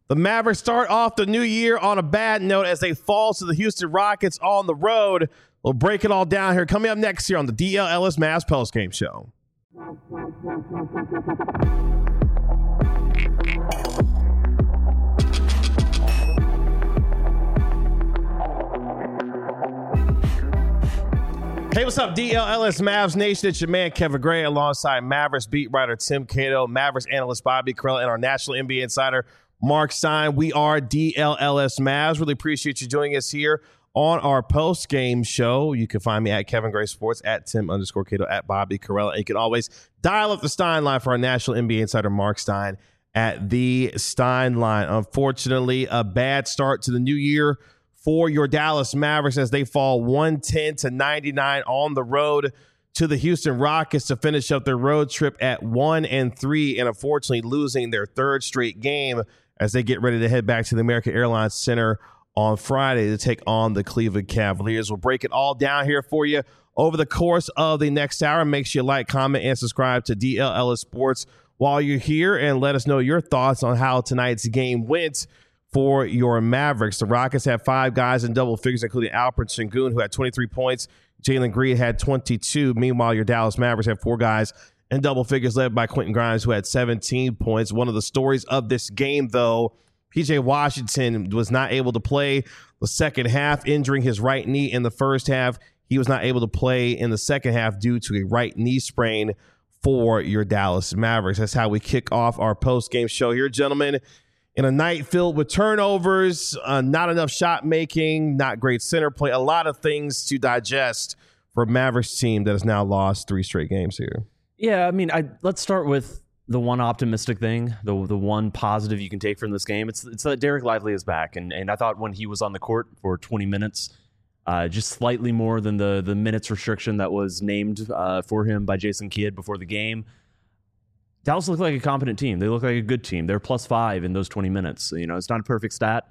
The Mavericks start off the new year on a bad note as they fall to the Houston Rockets on the road. We'll break it all down here. Coming up next here on the DL Ellis Mavs postgame show. Hey, what's up, DL Ellis Mavs Nation? It's your man, Kevin Gray, alongside Mavericks beat writer Tim Cato, Mavericks analyst Bobby Carell, and our national NBA insider, Mark Stein. We are DLLS Mavs. Really appreciate you joining us here on our post-game show. You can find me at Kevin Gray Sports, at Tim_Cato, at Bobby Carell. And you can always dial up the Stein line for our national NBA insider, Mark Stein, at the Stein line. Unfortunately, a bad start to the new year for your Dallas Mavericks as they fall 110-99 on the road to the Houston Rockets to finish up their road trip at 1-3, and unfortunately losing their third straight game as they get ready to head back to the American Airlines Center on Friday to take on the Cleveland Cavaliers. We'll break it all down here for you over the course of the next hour. Make sure you like, comment, and subscribe to DL Ellis Sports while you're here, and let us know your thoughts on how tonight's game went for your Mavericks. The Rockets had 5 guys in double figures, including Alperen Sengun, who had 23 points. Jalen Green had 22. Meanwhile, your Dallas Mavericks had 4 guys in double figures, led by Quentin Grimes, who had 17 points. One of the stories of this game, though, P.J. Washington was not able to play the second half, injuring his right knee in the first half. He was not able to play in the second half due to a right knee sprain for your Dallas Mavericks. That's how we kick off our post-game show here, gentlemen. In a night filled with turnovers, not enough shot making, not great center play, a lot of things to digest for a Mavericks team that has now lost 3 straight games here. Yeah, I mean, let's start with the one optimistic thing, the one positive you can take from this game. It's that Derek Lively is back, and I thought when he was on the court for 20 minutes, just slightly more than the minutes restriction that was named for him by Jason Kidd before the game, Dallas looked like a competent team. They look like a good team. They're +5 in those 20 minutes. You know, it's not a perfect stat.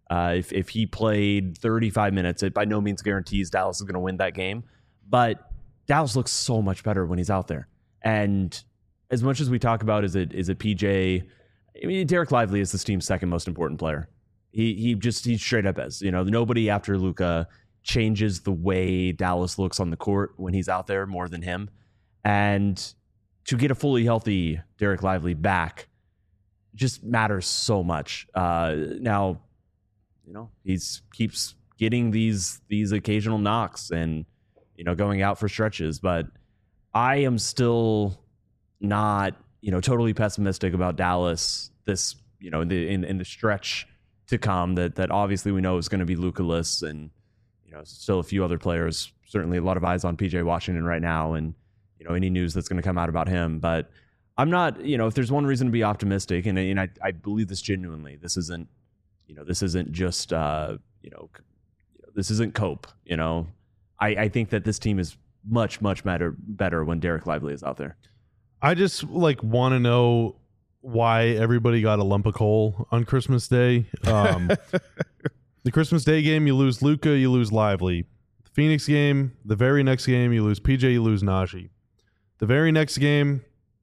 If he played 35 minutes, it by no means guarantees Dallas is going to win that game. But Dallas looks so much better when he's out there. And as much as we talk about, is it PJ? I mean, Derek Lively is this team's second most important player. He straight up is. You know, nobody after Luka changes the way Dallas looks on the court when he's out there more than him. And to get a fully healthy Derek Lively back just matters so much. Now, you know, keeps getting these occasional knocks and, you know, going out for stretches, but I am still not, you know, totally pessimistic about Dallas this, you know, in the stretch to come that obviously we know is going to be Luka-less, and, you know, still a few other players, certainly a lot of eyes on PJ Washington right now, and, you know, any news that's going to come out about him. But I'm not, you know, if there's one reason to be optimistic, and I believe this genuinely, this isn't just, you know, this isn't cope, you know. I think that this team is much better when Derek Lively is out there. I just want to know why everybody got a lump of coal on Christmas Day. The Christmas Day game, you lose Luka, you lose Lively. The Phoenix game, the very next game, you lose PJ, you lose Najee. The very next game,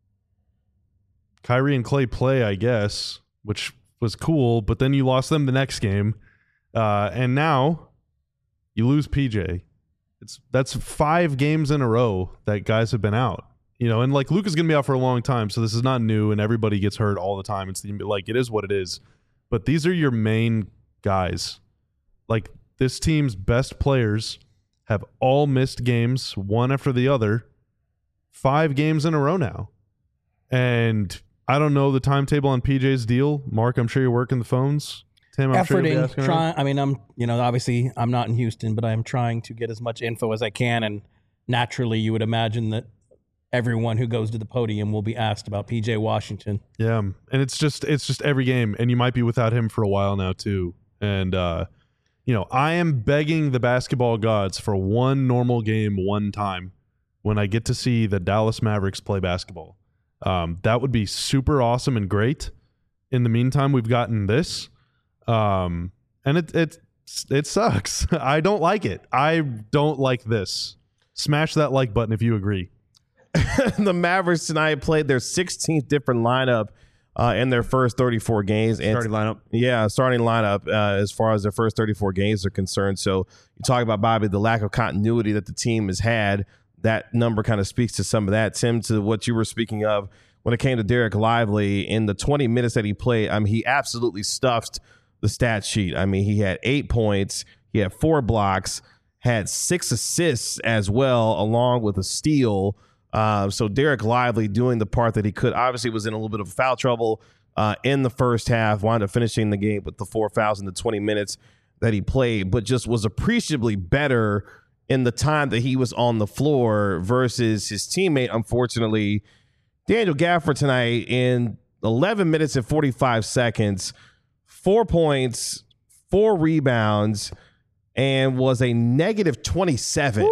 Kyrie and Clay play, I guess, which was cool, but then you lost them the next game. And now you lose PJ. That's 5 games in a row that guys have been out, you know, and Luka's going to be out for a long time. So this is not new, and everybody gets hurt all the time. It's it is what it is, but these are your main guys. This team's best players have all missed games, one after the other, 5 games in a row now. And I don't know the timetable on PJ's deal. Mark, I'm sure you're working the phones. Tim, I'm sure you'll be asking trying. I mean, obviously I'm not in Houston, but I'm trying to get as much info as I can. And naturally, you would imagine that everyone who goes to the podium will be asked about PJ Washington. Yeah, and it's just every game, and you might be without him for a while now too. And you know, I am begging the basketball gods for one normal game, one time, when I get to see the Dallas Mavericks play basketball. That would be super awesome and great. In the meantime, we've gotten this. And it sucks. I don't like it. I don't like this. Smash that like button if you agree. The Mavericks tonight played their 16th different lineup in their first 34 games. And Starting lineup. Yeah, starting lineup as far as their first 34 games are concerned. So you talk about, Bobby, the lack of continuity that the team has had. That number kind of speaks to some of that. Tim, to what you were speaking of when it came to Derek Lively, in the 20 minutes that he played, I mean, he absolutely stuffed the stat sheet. I mean, he had 8 points, he had 4 blocks, had 6 assists as well, along with a steal. So Derek Lively doing the part that he could. Obviously was in a little bit of foul trouble in the first half, wound up finishing the game with the 4 fouls in the 20 minutes that he played, but just was appreciably better in the time that he was on the floor versus his teammate, unfortunately, Daniel Gafford tonight in 11 minutes and 45 seconds, 4 points, 4 rebounds, and was a negative 27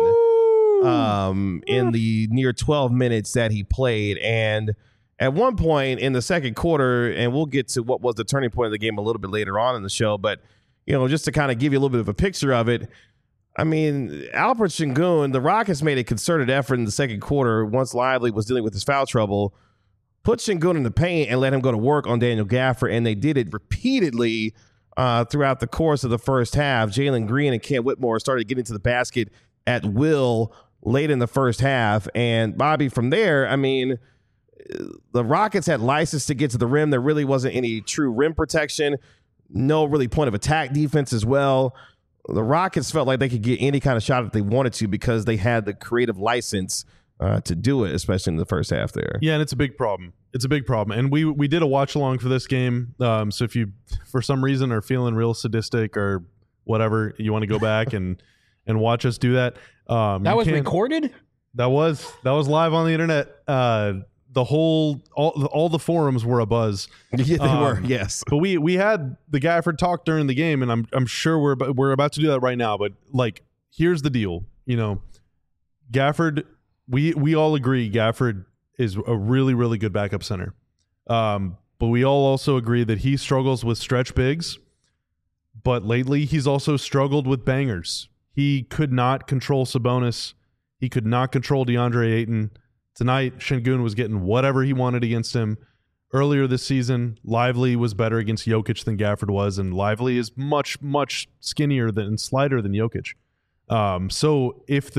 in the near 12 minutes that he played. And at one point in the second quarter, and we'll get to what was the turning point of the game a little bit later on in the show, but just to kind of give you a little bit of a picture of it, I mean, Albert Sengun, the Rockets made a concerted effort in the second quarter once Lively was dealing with his foul trouble, put Sengun in the paint and let him go to work on Daniel Gafford, and they did it repeatedly throughout the course of the first half. Jalen Green and Kent Whitmore started getting to the basket at will late in the first half, and Bobby, from there, I mean, the Rockets had license to get to the rim. There really wasn't any true rim protection, no really point of attack defense as well. The Rockets felt like they could get any kind of shot that they wanted to because they had the creative license to do it, especially in the first half there. Yeah, and it's a big problem. It's a big problem. And we did a watch along for this game. So if you, for some reason, are feeling real sadistic or whatever, you want to go back and watch us do that. That was recorded? That was live on the internet. All the forums were abuzz. Yeah, they were. Yes, but we had the Gafford talk during the game, and I'm sure we're about to do that right now. But like, here's the deal. Gafford, we all agree Gafford is a really, really good backup center. But we all also agree that he struggles with stretch bigs. But lately, he's also struggled with bangers. He could not control Sabonis. He could not control DeAndre Ayton. Tonight, Sengun was getting whatever he wanted against him. Earlier this season, Lively was better against Jokic than Gafford was, and Lively is much, much skinnier and slighter than Jokic. So if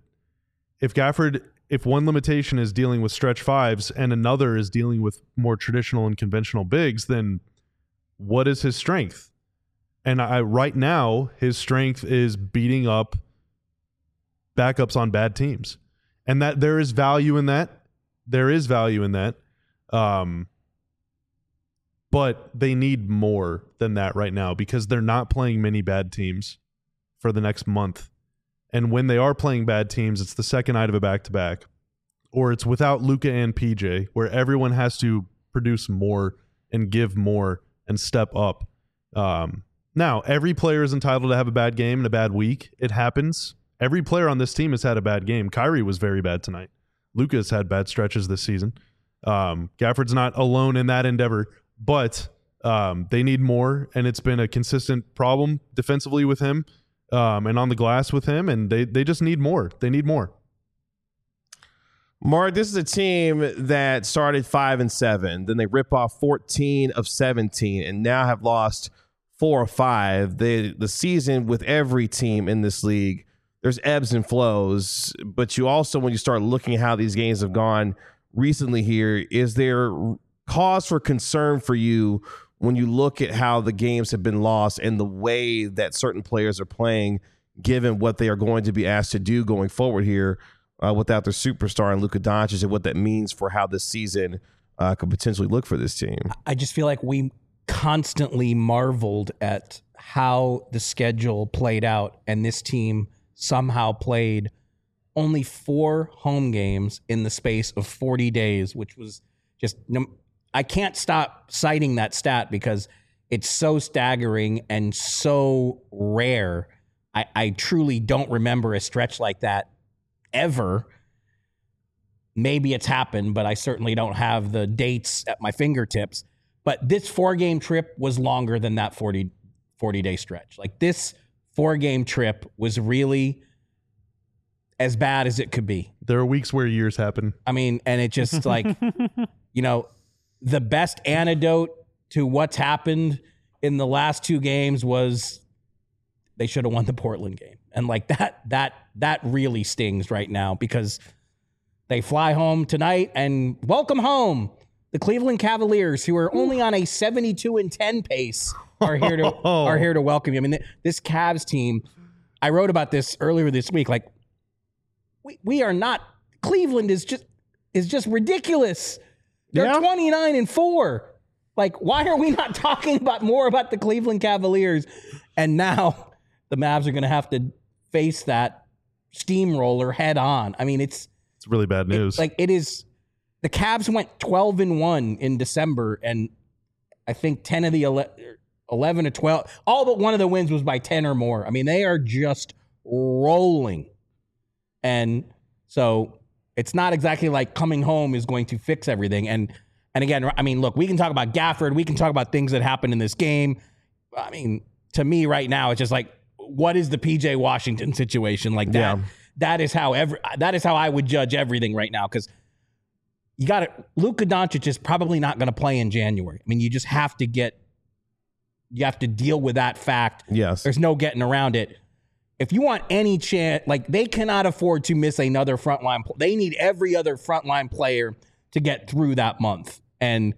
one limitation is dealing with stretch fives and another is dealing with more traditional and conventional bigs, then what is his strength? And right now, his strength is beating up backups on bad teams. And that there is value in that. There is value in that. But they need more than that right now because they're not playing many bad teams for the next month. And when they are playing bad teams, it's the second night of a back-to-back. Or it's without Luka and PJ, where everyone has to produce more and give more and step up. Now, every player is entitled to have a bad game and a bad week. It happens. Every player on this team has had a bad game. Kyrie was very bad tonight. Luka's had bad stretches this season. Gafford's not alone in that endeavor, but they need more, and it's been a consistent problem defensively with him and on the glass with him, and they just need more. They need more. Mark, this is a team that started 5-7. Then they rip off 14 of 17 and now have lost 4 or 5. The season with every team in this league, there's ebbs and flows, but you also, when you start looking at how these games have gone recently here, is there cause for concern for you when you look at how the games have been lost and the way that certain players are playing, given what they are going to be asked to do going forward here without their superstar and Luka Doncic, and what that means for how this season could potentially look for this team? I just feel like we constantly marveled at how the schedule played out, and this team somehow played only 4 home games in the space of 40 days, which was just, I can't stop citing that stat because it's so staggering and so rare. I truly don't remember a stretch like that ever. Maybe it's happened, but I certainly don't have the dates at my fingertips. But this 4-game trip was longer than that 40-day stretch. Like, this 4-game trip was really as bad as it could be. There are weeks where years happen. I mean, and it just like, the best antidote to what's happened in the last two games was they should have won the Portland game. And like that really stings right now because they fly home tonight and welcome home. The Cleveland Cavaliers, who are only on a 72-10 pace, are here to welcome you. I mean, this Cavs team, I wrote about this earlier this week. Like, we are not. Cleveland is just ridiculous. They're 29-4. Like, why are we not talking more about the Cleveland Cavaliers? And now the Mavs are going to have to face that steamroller head on. I mean, it's really bad news. It is. The Cavs went 12-1 in December, and I think 10 of the 11 to 12, all but one of the wins was by 10 or more. I mean, they are just rolling. And so it's not exactly like coming home is going to fix everything. And again, I mean, look, we can talk about Gafford. We can talk about things that happened in this game. I mean, to me right now, it's just like, what is the PJ Washington situation like that? Yeah. That is how I would judge everything right now, because you got it. Luka Doncic is probably not going to play in January. I mean, you just have to deal with that fact. Yes. There's no getting around it. If you want any chance, like, they cannot afford to miss another frontline. They need every other frontline player to get through that month. And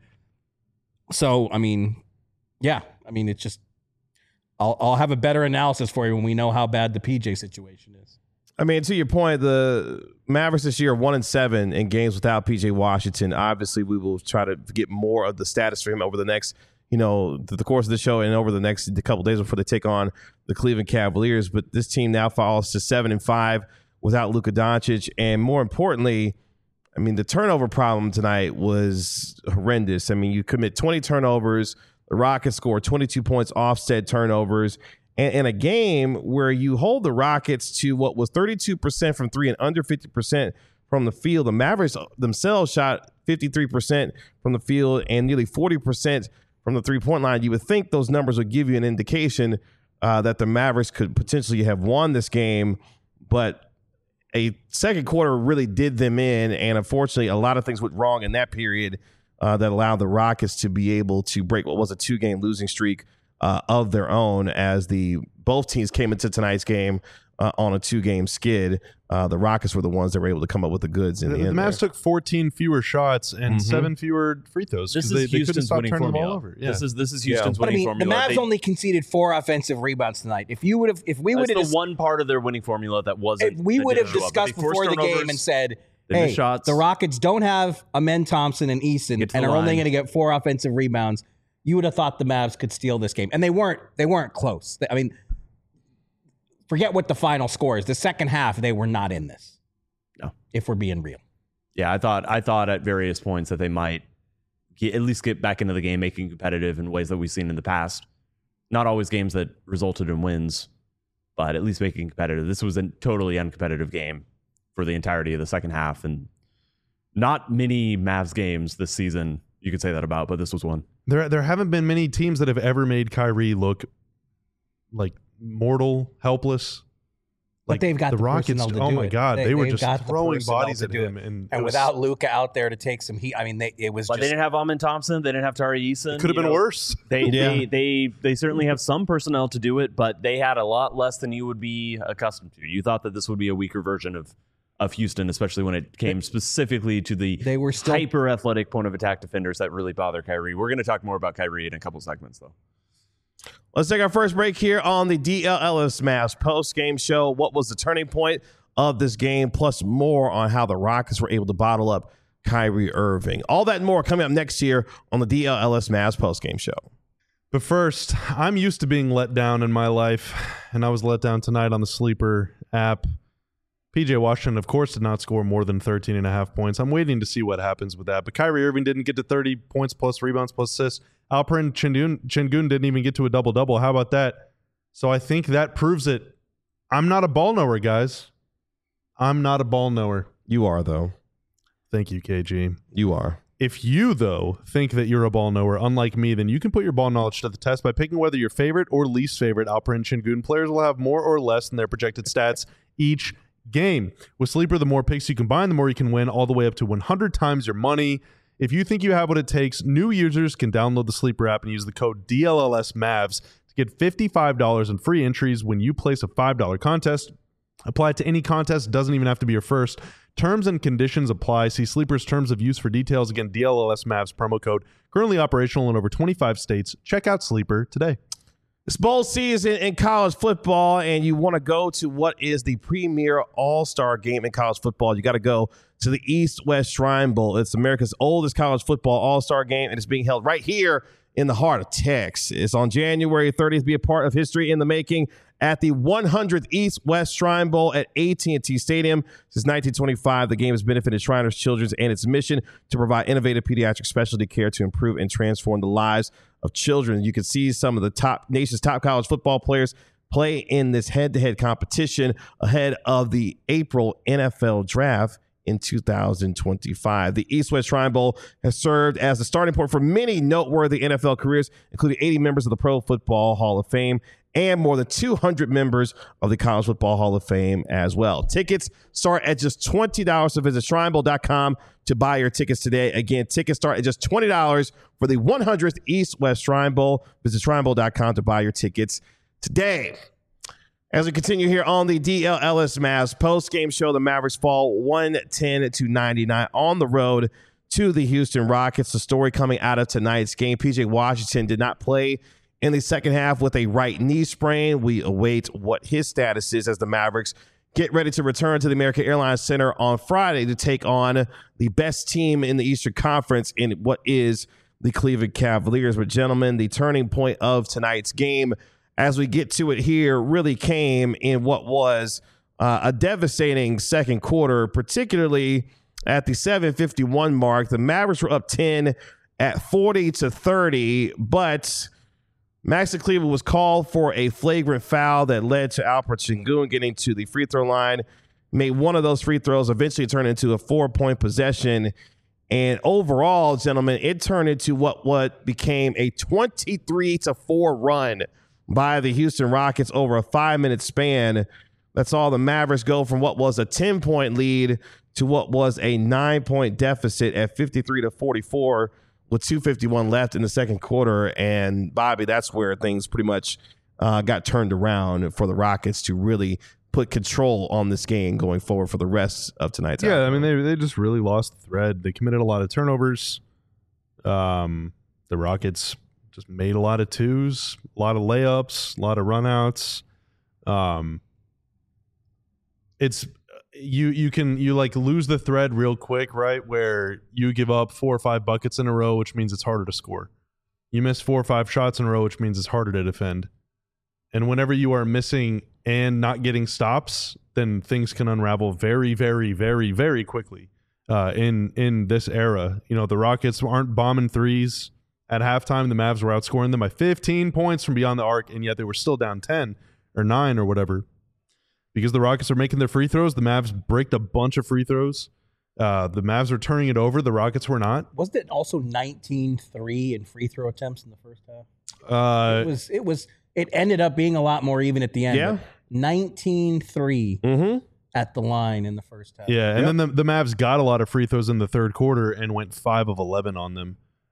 so, I mean, yeah, I mean, it's just, I'll have a better analysis for you when we know how bad the PJ situation is. I mean, to your point, the Mavericks this year are 1-7 in games without PJ Washington. Obviously, we will try to get more of the status for him over the next, the course of the show and over the next couple of days before they take on the Cleveland Cavaliers. But this team now falls to 7-5 without Luka Doncic. And more importantly, I mean, the turnover problem tonight was horrendous. I mean, you commit 20 turnovers. The Rockets scored 22 points off said turnovers. And in a game where you hold the Rockets to what was 32% from three and under 50% from the field, the Mavericks themselves shot 53% from the field and nearly 40% from the three-point line. You would think those numbers would give you an indication that the Mavericks could potentially have won this game, but a second quarter really did them in, and unfortunately a lot of things went wrong in that period that allowed the Rockets to be able to break what was a 2-game losing streak of their own, as both teams came into tonight's game on a 2-game skid. The Rockets were the ones that were able to come up with the goods in the end. The Mavs took 14 fewer shots and 7 fewer free throws. This is Houston's winning formula. Yeah. This is Houston's winning formula. The Mavs only conceded 4 offensive rebounds tonight. If we would have, the one part of their winning formula that wasn't. We would have discussed before the game and said, hey, the Rockets don't have Amen Thompson and Eason and are only going to get 4 offensive rebounds. You would have thought the Mavs could steal this game, and they weren't. They weren't close. I mean, forget what the final score is. The second half, they were not in this. No, if we're being real. Yeah, I thought at various points that they might at least get back into the game, making competitive in ways that we've seen in the past. Not always games that resulted in wins, but at least making competitive. This was a totally uncompetitive game for the entirety of the second half, and not many Mavs games this season you could say that about, but this was one. There haven't been many teams that have ever made Kyrie look like mortal, helpless. But they've got the Rockets. Oh my God, they were just throwing bodies at him, and without Luka out there to take some heat, I mean, it was. But they didn't have Amen Thompson. They didn't have Tari Eason. It could have been worse. They certainly have some personnel to do it, but they had a lot less than you would be accustomed to. You thought that this would be a weaker version of Houston, especially when it came specifically to the hyper athletic point of attack defenders that really bother Kyrie. We're going to talk more about Kyrie in a couple segments, though. Let's take our first break here on the DLLS Mavs post-game show. What was the turning point of this game, plus more on how the Rockets were able to bottle up Kyrie Irving. All that and more coming up next year on the DLLS Mavs post-game show. But first, I'm used to being let down in my life, and I was let down tonight on the Sleeper app. PJ Washington, of course, did not score more than 13.5 points. I'm waiting to see what happens with that. But Kyrie Irving didn't get to 30 points plus rebounds plus assists. Alperen Şengün didn't even get to a double-double. How about that? So I think that proves it. I'm not a ball knower, guys. I'm not a ball knower. You are, though. Thank you, KG. You are. If you, though, think that you're a ball knower, unlike me, then you can put your ball knowledge to the test by picking whether your favorite or least favorite Alperen Şengün players will have more or less than their projected stats each game. With Sleeper, the more picks you combine, the more you can win, all the way up to 100 times your money. If you think you have what it takes, new users can download the Sleeper app and use the code DLLSMavs to get $55 in free entries when you place a $5 contest. Apply it to any contest. Doesn't even have to be your first. Terms and conditions apply. See Sleeper's terms of use for details. Again, DLLSMavs promo code. Currently operational in over 25 states. Check out Sleeper today. It's bowl season in college football, and you want to go to what is the premier all-star game in college football. You got to go to the East-West Shrine Bowl. It's America's oldest college football all-star game, and it's being held right here in the heart of Texas. It's on January 30th. Be a part of history in the making at the 100th East-West Shrine Bowl at AT&T Stadium. Since 1925, the game has benefited Shriners Children's and its mission to provide innovative pediatric specialty care to improve and transform the lives of children. You can see some of the nation's top college football players play in this head-to-head competition ahead of the April NFL Draft in 2025. The East-West Shrine Bowl has served as the starting point for many noteworthy NFL careers, including 80 members of the Pro Football Hall of Fame and more than 200 members of the College Football Hall of Fame as well. Tickets start at just $20, so visit shrinebowl.com to buy your tickets today. Again, tickets start at just $20 for the 100th East-West Shrine Bowl. Visit shrinebowl.com to buy your tickets today. As we continue here on the DLLS Mavs post-game show, the Mavericks fall 110-99 on the road to the Houston Rockets. The story coming out of tonight's game, PJ Washington did not play in the second half with a right knee sprain. We await what his status is as the Mavericks get ready to return to the American Airlines Center on Friday to take on the best team in the Eastern Conference in what is the Cleveland Cavaliers. But gentlemen, the turning point of tonight's game, as we get to it here, really came in what was a devastating second quarter, particularly at the 7:51 mark. The Mavericks were up 10 at 40-30, but Maxi Kleber was called for a flagrant foul that led to Alperen Sengun getting to the free throw line, made one of those free throws, eventually turned into a 4-point possession. And overall, gentlemen, it turned into what became a 23-4 run by the Houston Rockets over a 5-minute span. That's all the Mavericks go from what was a 10-point lead to what was a 9-point deficit at 53-44 with 2:51 left in the second quarter. And Bobby, that's where things pretty much got turned around for the Rockets to really put control on this game going forward for the rest of tonight's Yeah, outcome. I mean, they just really lost the thread. They committed a lot of turnovers. The Rockets just made a lot of twos, a lot of layups, a lot of runouts. It's you like lose the thread real quick, right? Where you give up 4 or 5 buckets in a row, which means it's harder to score. You miss 4 or 5 shots in a row, which means it's harder to defend. And whenever you are missing and not getting stops, then things can unravel very, very, very, very quickly. In this era, you know, the Rockets aren't bombing threes at halftime. The Mavs were outscoring them by 15 points from beyond the arc, and yet they were still down 10 or 9 or whatever. Because the Rockets are making their free throws, the Mavs bricked a bunch of free throws. The Mavs are turning it over. The Rockets were not. Wasn't it also 19-3 in free throw attempts in the first half? It ended up being a lot more even at the end. Yeah. 19-3 at the line in the first half. Yeah, and then the Mavs got a lot of free throws in the third quarter and went 5 of 11 on them.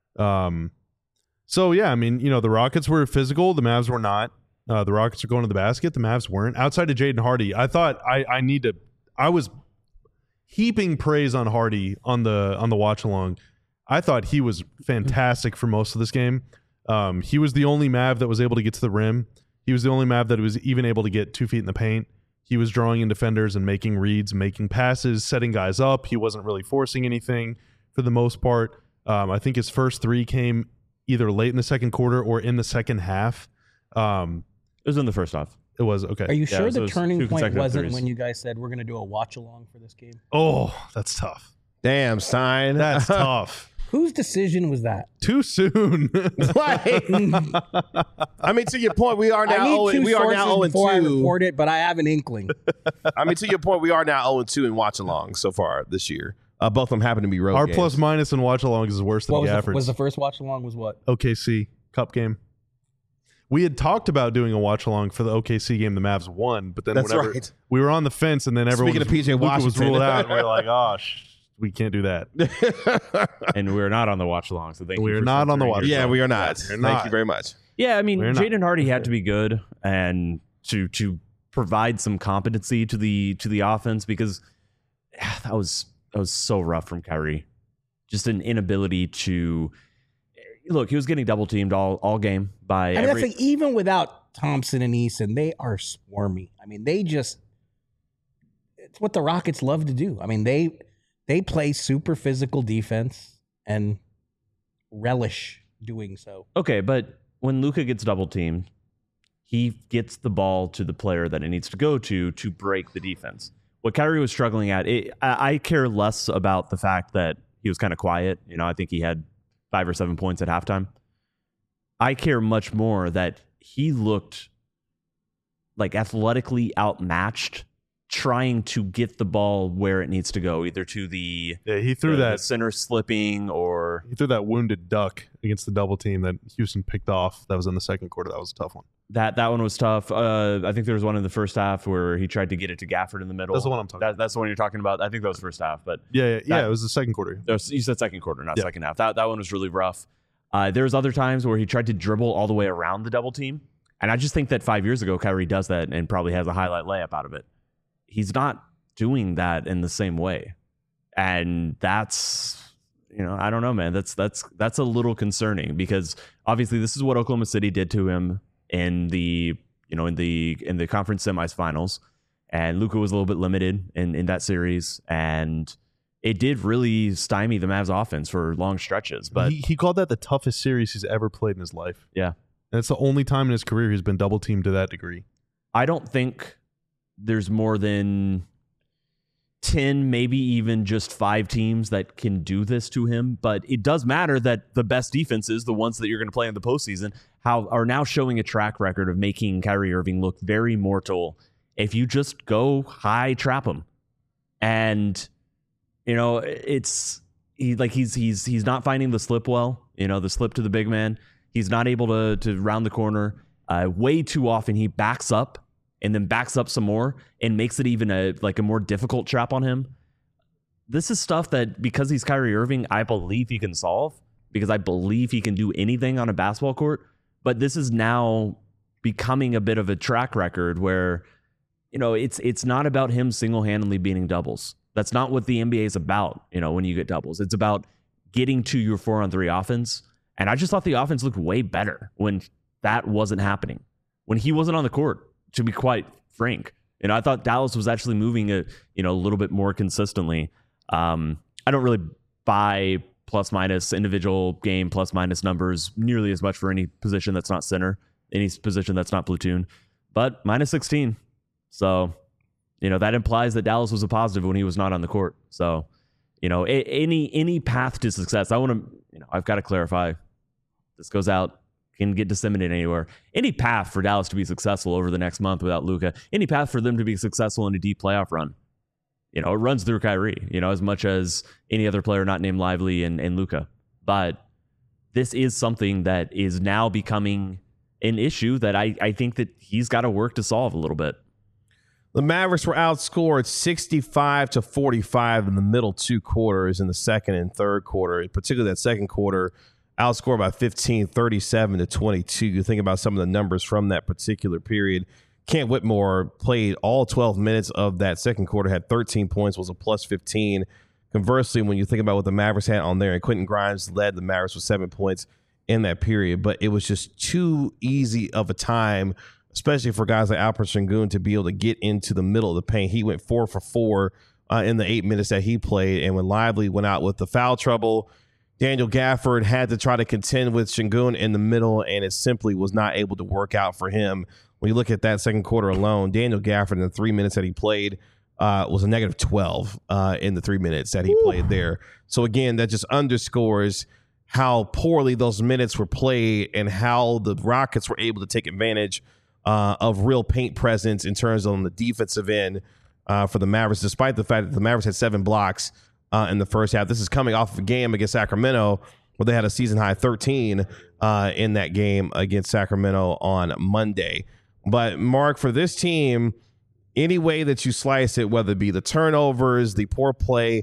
So, yeah, I mean, you know, the Rockets were physical. The Mavs were not. The Rockets are going to the basket. The Mavs weren't. Outside of Jaden Hardy, I thought I was heaping praise on Hardy on the watch along. I thought he was fantastic for most of this game. He was the only Mav that was able to get to the rim. He was the only Mav that was even able to get 2 feet in the paint. He was drawing in defenders and making reads, making passes, setting guys up. He wasn't really forcing anything for the most part. I think his first 3 came either late in the second quarter or in the second half. It was in the first half. It was okay. Are you sure so the it's turning 2 point consecutive wasn't threes. when you guys said we're going to do a watch along for this game? Oh, that's tough. Damn, Stein. That's tough. Whose decision was that? Too soon. Like, I mean, to your point, we are I now need 2 we are now sources before I 0-2. report it, but I have an inkling. I mean, to your point, we are now 0-2 in watch along so far this year. Both of them happen to be road Our games. plus minus and watch alongs is worse than What Gafford's. was the first watch along was what? OKC Cup game. We had talked about doing a watch along for the OKC game. The Mavs won, but then That's whenever right. we were on the fence, and then everyone Speaking of PJ Luka was Washington. ruled out, and we were like, "Oh, we can't do that. And we're not on the watch along. So thank you. We're for not on the censoring watch yourself. Yeah, we are not. We're Thank not. you very much. Yeah, I mean, We're not. Jaden Hardy had to be good and to provide some competency to the offense, because that was so rough from Kyrie. Just an inability to look. He was getting double teamed all game by I mean, that's like, even without Thompson and Eason, they are swarmy. I mean, it's what the Rockets love to do. I mean, they play super physical defense and relish doing so. Okay, but when Luka gets double teamed, he gets the ball to the player that it needs to go to break the defense. What Kyrie was struggling at, I care less about the fact that he was kind of quiet. You know, I think he had 5 or 7 points at halftime. I care much more that he looked like athletically outmatched, trying to get the ball where it needs to go, either to the He threw the center slipping, or He threw that wounded duck against the double team that Houston picked off. That was in the second quarter. That was a tough one. that one was tough. I think there was one in the first half where he tried to get it to Gafford in the middle. That's the one I'm talking about. That's the one you're talking about. I think that was first half, but Yeah, it was the second quarter. you said second quarter, not Yeah. second half. That one was really rough. There's other times where he tried to dribble all the way around the double team, and I just think that 5 years ago Kyrie does that and probably has a highlight layup out of it. He's not doing that in the same way, and that's, I don't know, man. That's a little concerning, because obviously this is what Oklahoma City did to him in the conference semifinals, and Luka was a little bit limited in that series, and it did really stymie the Mavs offense for long stretches. But he called that the toughest series he's ever played in his life. yeah, And it's the only time in his career he's been double teamed to that degree. I don't think there's more than 10, maybe even just 5 teams that can do this to him. But it does matter that the best defenses, the ones that you're going to play in the postseason, are now showing a track record of making Kyrie Irving look very mortal if you just go high trap him. And he's not finding the slip well, the slip to the big man. He's not able to round the corner. Way too often he backs up and then backs up some more and makes it even a more difficult trap on him. This is stuff that, because he's Kyrie Irving, I believe he can solve, because I believe he can do anything on a basketball court. But this is now becoming a bit of a track record where, it's not about him single-handedly beating doubles. That's not what the NBA is about, when you get doubles. It's about getting to your 4-on-3 offense. And I just thought the offense looked way better when that wasn't happening, when he wasn't on the court, to be quite frank. I thought Dallas was actually moving a little bit more consistently. I don't really buy plus minus individual game plus minus numbers nearly as much for any position that's not center, any position that's not platoon, but minus 16. So, that implies that Dallas was a positive when he was not on the court. So, any path to success, I've got to clarify, this goes out, can get disseminated anywhere. Any path for Dallas to be successful over the next month without Luka, any path for them to be successful in a deep playoff run, it runs through Kyrie, as much as any other player not named Lively and Luka. But this is something that is now becoming an issue that I think that he's got to work to solve a little bit. The Mavericks were outscored 65-45 in the middle 2 quarters in the second and third quarter, particularly that second quarter, outscored by 15, 37-22. You think about some of the numbers from that particular period. Kent Whitmore played all 12 minutes of that second quarter, had 13 points, was a plus 15. Conversely, when you think about what the Mavericks had on there, and Quentin Grimes led the Mavericks with 7 points in that period, but it was just too easy of a time, especially for guys like Alperen Sengun, to be able to get into the middle of the paint. He went 4 for 4 in the 8 minutes that he played, and when Lively went out with the foul trouble, Daniel Gafford had to try to contend with Sengun in the middle, and it simply was not able to work out for him. When you look at that second quarter alone, Daniel Gafford in the 3 minutes that he played was a negative 12 in the 3 minutes that he played there. So again, that just underscores how poorly those minutes were played and how the Rockets were able to take advantage of real paint presence in terms of on the defensive end for the Mavericks, despite the fact that the Mavericks had 7 blocks in the first half. This is coming off of a game against Sacramento where they had a season-high 13 in that game against Sacramento on Monday. But, Mark, for this team, any way that you slice it, whether it be the turnovers, the poor play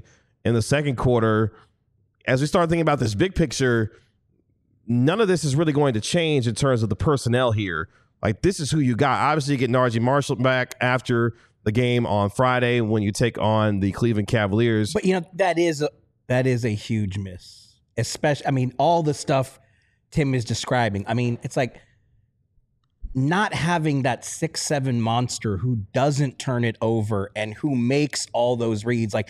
in the second quarter. As we start thinking about this big picture, none of this is really going to change in terms of the personnel here. Like, this is who you got. Obviously, you get Najee Marshall back after the game on Friday when you take on the Cleveland Cavaliers. But, that is a huge miss. Especially, all the stuff Tim is describing. It's like not having that 6'7" monster who doesn't turn it over and who makes all those reads. Like,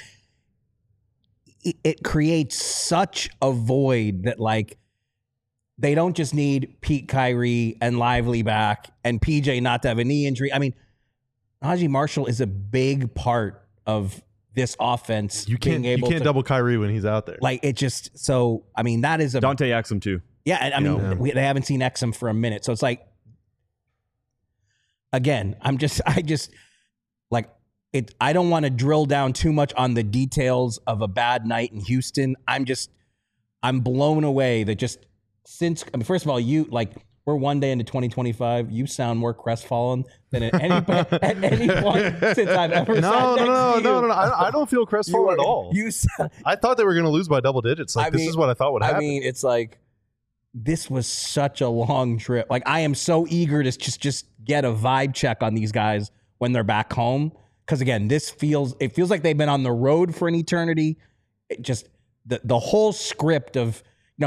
it creates such a void that, like, they don't just need Pete Kyrie and Lively back and PJ not to have a knee injury. Najee Marshall is a big part of this offense. You can't double Kyrie when he's out there. Like, it just, that is a Dante Exum too. Yeah, they haven't seen Exum for a minute, so it's like, again, I don't want to drill down too much on the details of a bad night in Houston. I'm blown away that just since, first of all, we're one day into 2025. You sound more crestfallen than at any point since I've ever No. I don't feel crestfallen at all. I thought they were going to lose by double digits. This is what I thought would happen. It's like, this was such a long trip. Like, I am so eager to just get a vibe check on these guys when they're back home. Because again, it feels like they've been on the road for an eternity. It just the whole script of,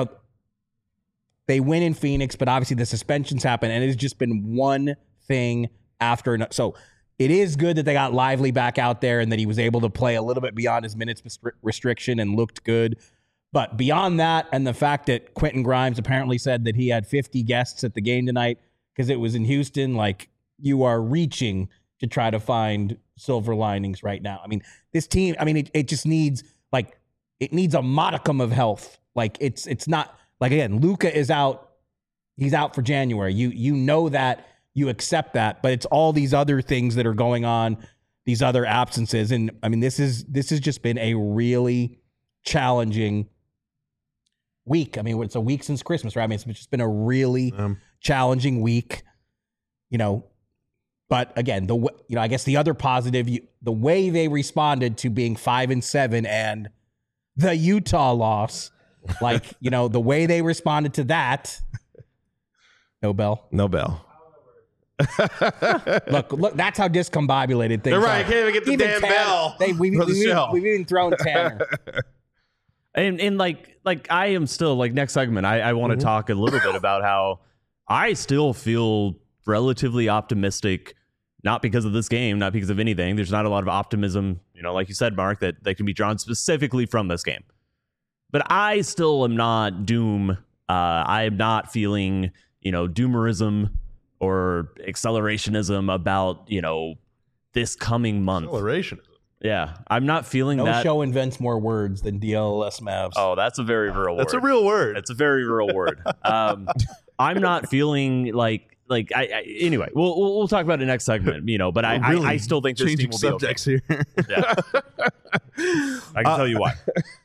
they win in Phoenix, but obviously the suspensions happen, and it has just been one thing after another. So it is good that they got Lively back out there and that he was able to play a little bit beyond his minutes restriction and looked good. But beyond that, and the fact that Quentin Grimes apparently said that he had 50 guests at the game tonight because it was in Houston, like, you are reaching to try to find silver linings right now. This team, it just needs, it needs a modicum of health. Like, it's not, like, again, Luka is out. He's out for January. You know that, you accept that, but it's all these other things that are going on, these other absences. And this has just been a really challenging week. It's a week since Christmas, right? It's just been a really challenging week, But again, I guess the other positive, the way they responded to being 5-7 and the Utah loss, the way they responded to that. No bell. Look, that's how discombobulated things They're right. are. Can't even get the damn bell. We've even thrown Tanner. And I am still, next segment, I want to talk a little bit about how I still feel relatively optimistic, not because of this game, not because of anything. There's not a lot of optimism, like you said, Mark, that can be drawn specifically from this game. But I still am not doom. I am not feeling, doomerism or accelerationism about, this coming month. Acceleration. Yeah, I'm not feeling that. No show invents more words than DLLS Mavs. Oh, that's a very real word. That's a real word. It's a very real word. I'm not feeling anyway, we'll talk about it next segment, but I still think this team will be okay. Here. Yeah. I can tell you why.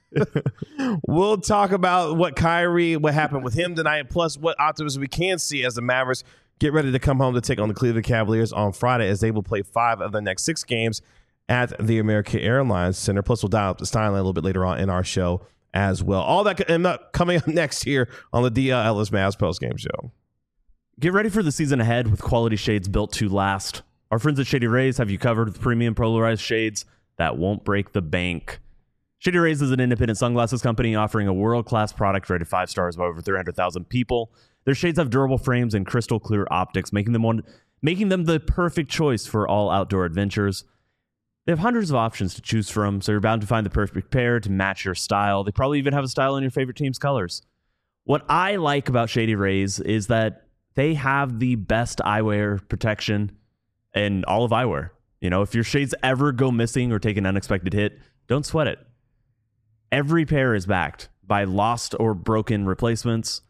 We'll talk about what happened with him tonight, plus what optimism we can see as the Mavericks get ready to come home to take on the Cleveland Cavaliers on Friday, as they will play 5 of the next 6 games at the American Airlines Center. Plus, we'll dial up the Steinline a little bit later on in our show as well. All that coming up next here on the DLLS Mavs postgame show. Get ready for the season ahead with quality shades built to last. Our friends at Shady Rays have you covered with premium polarized shades that won't break the bank. Shady Rays is an independent sunglasses company offering a world-class product rated 5 stars by over 300,000 people. Their shades have durable frames and crystal clear optics, making them the perfect choice for all outdoor adventures. They have hundreds of options to choose from, so you're bound to find the perfect pair to match your style. They probably even have a style in your favorite team's colors. What I like about Shady Rays is that they have the best eyewear protection in all of eyewear. If your shades ever go missing or take an unexpected hit, don't sweat it. Every pair is backed by lost or broken replacements.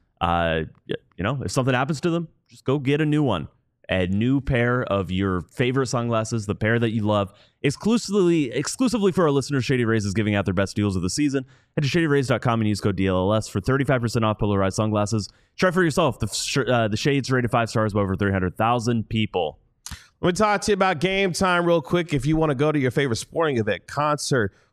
If something happens to them, just go get a new one. A new pair of your favorite sunglasses, the pair that you love. Exclusively for our listeners, Shady Rays is giving out their best deals of the season. Head to shadyrays.com and use code DLLS for 35% off polarized sunglasses. Try for yourself. The shades rated 5 stars by over 300,000 people. Let me talk to you about Game Time real quick. If you want to go to your favorite sporting event, concert,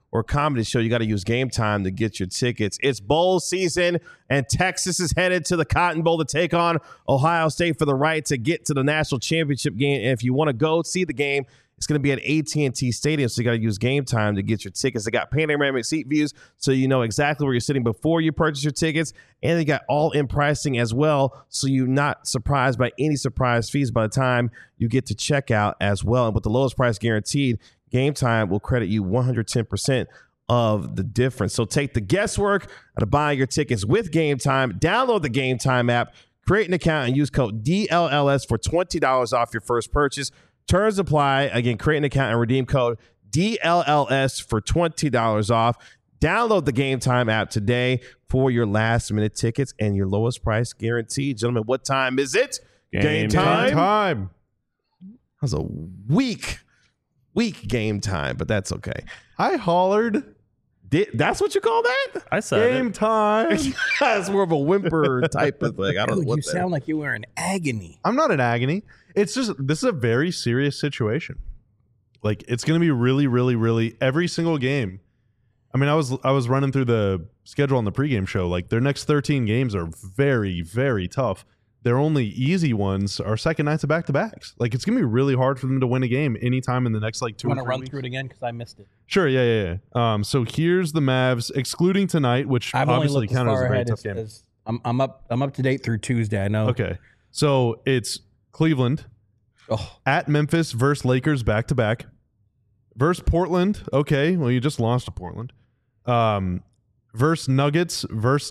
or comedy show, you got to use Game Time to get your tickets. It's bowl season, and Texas is headed to the Cotton Bowl to take on Ohio State for the right to get to the national championship game. And if you want to go see the game, it's going to be at AT&T Stadium, so you got to use Game Time to get your tickets. They got panoramic seat views, so you know exactly where you're sitting before you purchase your tickets, and they got all-in pricing as well, so you're not surprised by any surprise fees by the time you get to checkout as well. And with the lowest price guaranteed, Game Time will credit you 110% of the difference. So take the guesswork out of buying your tickets with Game Time. Download the Game Time app, create an account, and use code DLLS for $20 off your first purchase. Terms apply. Again, create an account and redeem code DLLS for $20 off. Download the Game Time app today for your last-minute tickets and your lowest price guaranteed. Gentlemen, what time is it? Game Time. That was a weak game time, but that's okay. I hollered That's what you call that? I said Game Time. That's more of a whimper type of thing. I don't know Dude, what you that sound like you were in agony. I'm not in agony. It's just, this is a very serious situation. Like, it's going to be really, really, really every single game. I mean, I was running through the schedule on the pregame show. Like, their next 13 games are very, very tough. Their only easy ones are second nights of back-to-backs. Like, it's going to be really hard for them to win a game anytime in the next, like, 2 or 3 Want to run weeks. through it again because I missed it. Sure, yeah. So here's the Mavs, excluding tonight, which I've only obviously looked as counted as far a very ahead tough as, game. as I'm up to date through Tuesday. I know. Okay, so it's Cleveland Oh, at Memphis versus Lakers back-to-back versus Portland. Okay, well, you just lost to Portland. Versus Nuggets.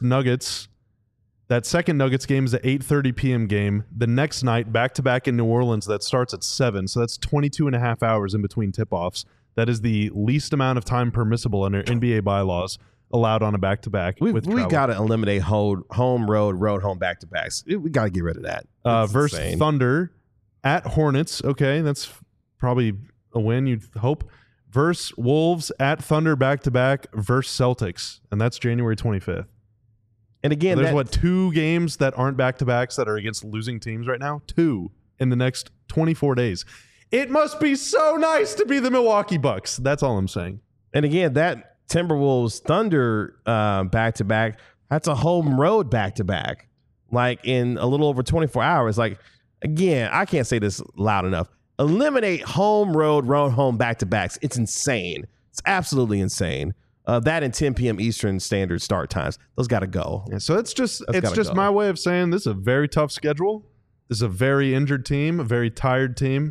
That second Nuggets game is an 8:30 p.m. game. The next night, back-to-back in New Orleans, that starts at 7. So that's 22 and a half hours in between tip-offs. That is the least amount of time permissible under NBA bylaws allowed on a back-to-back. We with travel. got to eliminate home, road, home back-to-backs. We got to get rid of that. Versus insane. Thunder at Hornets. Okay, that's probably a win, you'd hope. Versus Wolves at Thunder back-to-back versus Celtics. And that's January 25th. And again, So there's 2 games that aren't back-to-backs that are against losing teams right now? 2 in the next 24 days. It must be so nice to be the Milwaukee Bucks. That's all I'm saying. And again, that Timberwolves Thunder back-to-back, that's a home road back-to-back, like in a little over 24 hours. Like, again, I can't say this loud enough. Eliminate home road home back-to-backs. It's insane. It's absolutely insane. That and 10 p.m. Eastern Standard start times. Those got to go. Yeah, so it's just gotta go. my way of saying this is a very tough schedule. This is a very injured team, a very tired team.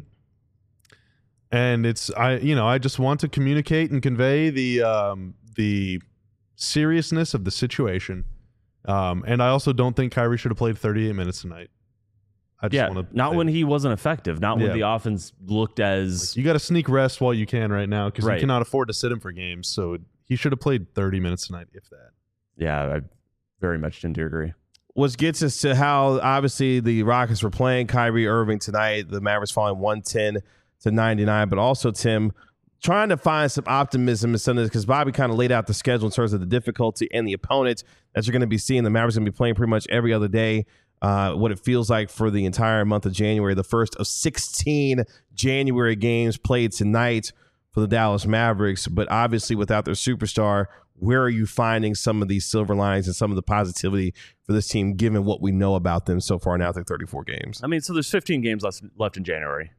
And I just want to communicate and convey the seriousness of the situation. And I also don't think Kyrie should have played 38 minutes tonight. I just want to not when he wasn't effective, not when the offense looked as you got to sneak rest while you can right now because Right. you cannot afford to sit him for games. So he should have played 30 minutes tonight, if that. Yeah, I very much tend to agree. Which gets us to how obviously the Rockets were playing Kyrie Irving tonight. The Mavericks falling 110-99, but also Tim trying to find some optimism in some of this because Bobby kind of laid out the schedule in terms of the difficulty and the opponent that you're going to be seeing. The Mavericks going to be playing pretty much every other day. What it feels like for the entire month of January, the first of 16 January games played tonight for the Dallas Mavericks. But obviously, without their superstar, where are you finding some of these silver linings and some of the positivity for this team, given what we know about them so far now through 34 games? I mean, so there's 15 games left in January.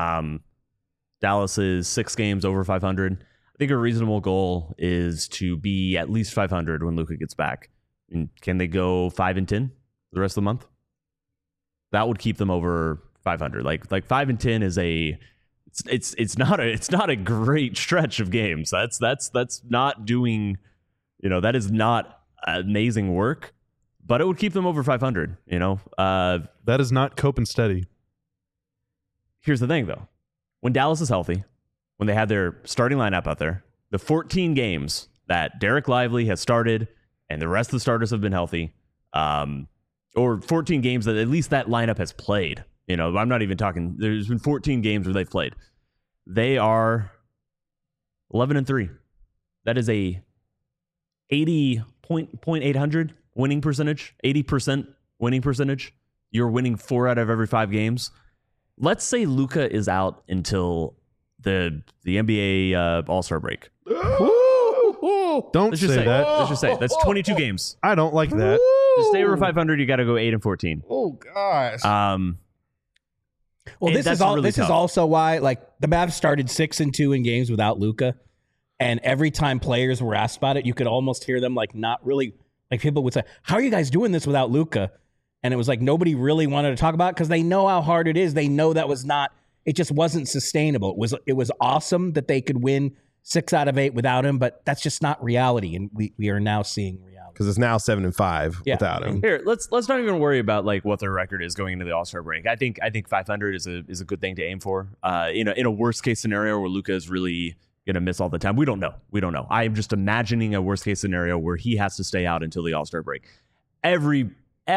Dallas is 6 games over 500. I think a reasonable goal is to be at least 500 when Luka gets back. And can they go 5-10 the rest of the month? That would keep them over 500. Like 5-10 is it's not a great stretch of games. That's not doing, that is not amazing work, but it would keep them over 500. That is not cope and steady. Here's the thing, though. When Dallas is healthy, when they have their starting lineup out there, the 14 games that Derek Lively has started and the rest of the starters have been healthy, or 14 games that at least that lineup has played. I'm not even talking. There's been 14 games where they've played. They are 11-3. That is a 80.800 winning percentage, 80% winning percentage. You're winning 4 out of every 5 games. Let's say Luka is out until the NBA All-Star break. Don't Let's just say say that. Let's just say that's 22 games. I don't like that. To stay over 500, you got to go 8-14. Oh gosh. Well, And this that's is all. really This is tough. also why, like, the Mavs started 6-2 in games without Luka, and every time players were asked about it, you could almost hear them like not really. Like people would say, "How are you guys doing this without Luka?" And it was like nobody really wanted to talk about it because they know how hard it is. They know that was not. It just wasn't sustainable. It was awesome that they could win 6 out of 8 without him, but that's just not reality, and we are now seeing reality. Because it's now 7-5 without him. Here, let's not even worry about like what their record is going into the All-Star break. I think 500 is a good thing to aim for. In a worst case scenario where Luka is really gonna miss all the time, we don't know. I am just imagining a worst case scenario where he has to stay out until the All-Star break. Every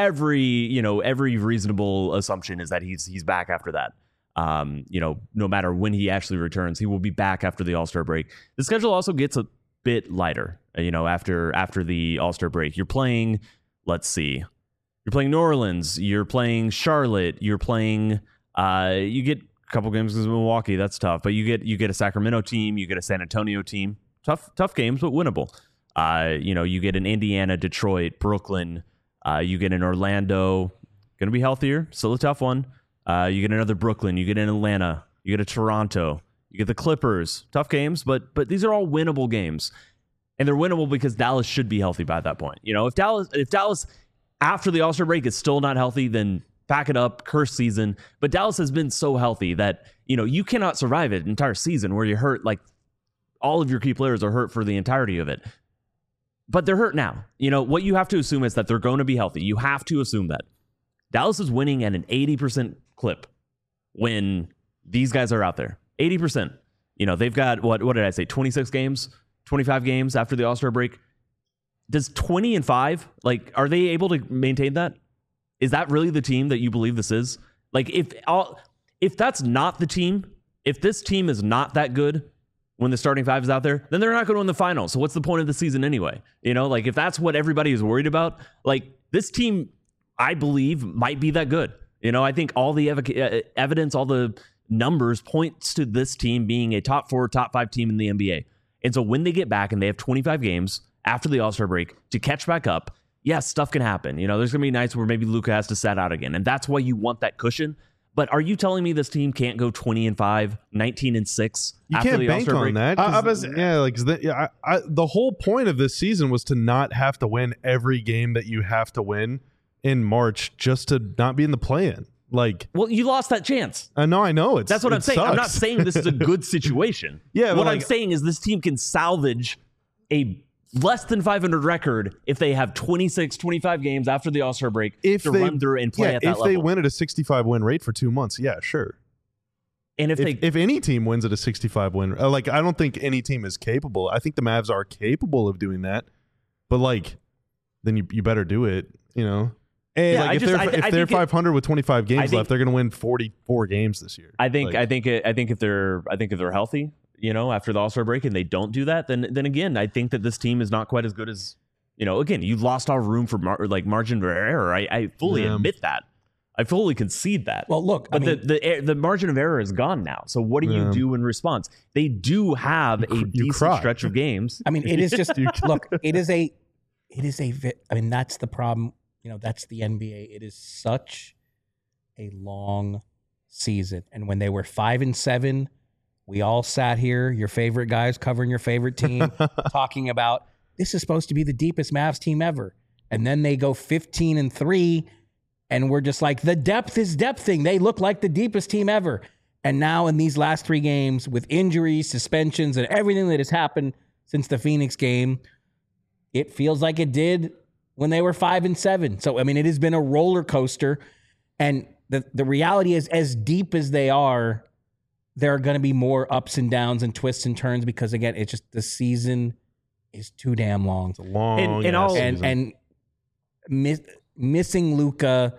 reasonable assumption is that he's back after that. No matter when he actually returns, he will be back after the All-Star break. The schedule also gets a bit lighter, after the All-Star break. You're playing, let's see, you're playing New Orleans, you're playing Charlotte, you're playing, you get a couple games against Milwaukee, that's tough, but you get a Sacramento team, you get a San Antonio team, tough games, but winnable. You get an Indiana, Detroit, Brooklyn, you get an Orlando, gonna be healthier, still a tough one. You get another Brooklyn, you get an Atlanta, you get a Toronto, you get the Clippers. Tough games, but these are all winnable games. And they're winnable because Dallas should be healthy by that point. If Dallas after the All-Star break is still not healthy, then back it up, curse season. But Dallas has been so healthy that, you cannot survive an entire season where you're hurt, like all of your key players are hurt for the entirety of it. But they're hurt now. What you have to assume is that they're going to be healthy. You have to assume that. Dallas is winning at an 80% clip when these guys are out there. 80%. They've got, what did I say, 26 games, 25 games after the All-Star break. Does 20-5, like, are they able to maintain that? Is that really the team that you believe this is? Like, if that's not the team, if this team is not that good when the starting five is out there, then they're not going to win the finals. So what's the point of the season anyway? Like, if that's what everybody is worried about, like, this team, I believe, might be that good. I think all the evidence, all the numbers points to this team being a top 4, top 5 team in the NBA. And so when they get back and they have 25 games after the All-Star break to catch back up, yes, stuff can happen. There's going to be nights where maybe Luka has to sit out again. And that's why you want that cushion. But are you telling me this team can't go 20-5, 19-6 You after can't the bank All-Star on break? that. The whole point of this season was to not have to win every game that you have to win in March just to not be in the play-in. Like, Well, you lost that chance. I know That's what I'm saying. I'm not sucks. saying this is a good situation. Yeah, but what I'm like- saying is this team can salvage a less than 500 record if they have 26, 25 games after the All-Star break If to they run through and play at that if level. they win at a 65 win rate for 2 months, yeah, sure. And If any team wins at a 65 win, I don't think any team is capable. I think the Mavs are capable of doing that, but like, then you better do it. And Yeah, Like, if they're 500 with 25 games left, they're going to win 44 games this year. I think Like, if they're healthy, after the All-Star break, and they don't do that, then again, I think that this team is not quite as good as again. You lost all room for margin of error. I fully admit that. I fully concede that. Well, look, but the margin of error is gone now. So what do you do in response? They do have a decent cry. stretch of games. it is just look. It is a. That's the problem. That's the NBA. It is such a long season, and when they were 5-7, we all sat here, your favorite guys covering your favorite team, talking about this is supposed to be the deepest Mavs team ever, and then they go 15-3, and we're just like, the depth is depthing. They look like the deepest team ever, and now in these last 3 games with injuries, suspensions, and everything that has happened since the Phoenix game, it feels like it did when they were 5-7. So, it has been a roller coaster. And the reality is, as deep as they are, there are going to be more ups and downs and twists and turns because, again, it's just the season is too damn long. It's a long And season. Missing Luka,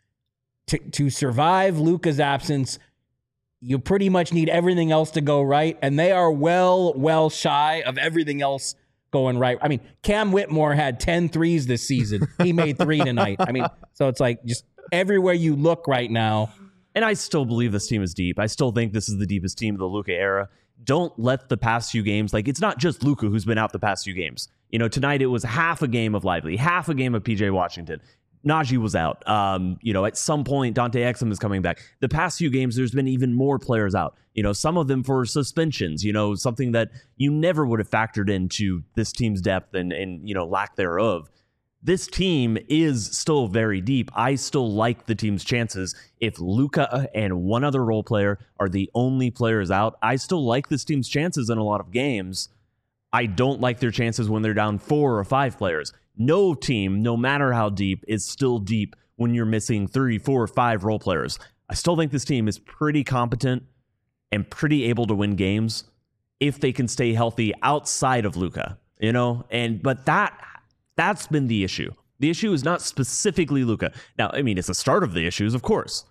to survive Luka's absence, you pretty much need everything else to go right. And they are well shy of everything else going right. Cam Whitmore had 10 threes this season. He made 3 tonight. So it's like just everywhere you look right now, And I still believe this team is deep. I still think this is the deepest team of the Luka era. Don't let the past few games, like, it's not just Luka who's been out the past few games. You know, tonight it was half a game of Lively, half a game of PJ Washington. Najee was out. You know, at some point, Dante Exum is coming back. The past few games, there's been even more players out. You know, some of them for suspensions, you know, something that you never would have factored into this team's depth and you know, lack thereof. This team is still very deep. I still like the team's chances. If Luka and one other role player are the only players out, I still like this team's chances in a lot of games. I don't like their chances when they're down 4 or 5 players. No team, no matter how deep, is still deep when you're missing 3, 4, 5 role players. I still think this team is pretty competent and pretty able to win games if they can stay healthy outside of Luka, you know? But that's been the issue. The issue is not specifically Luka. Now, I mean, it's the start of the issues, of course,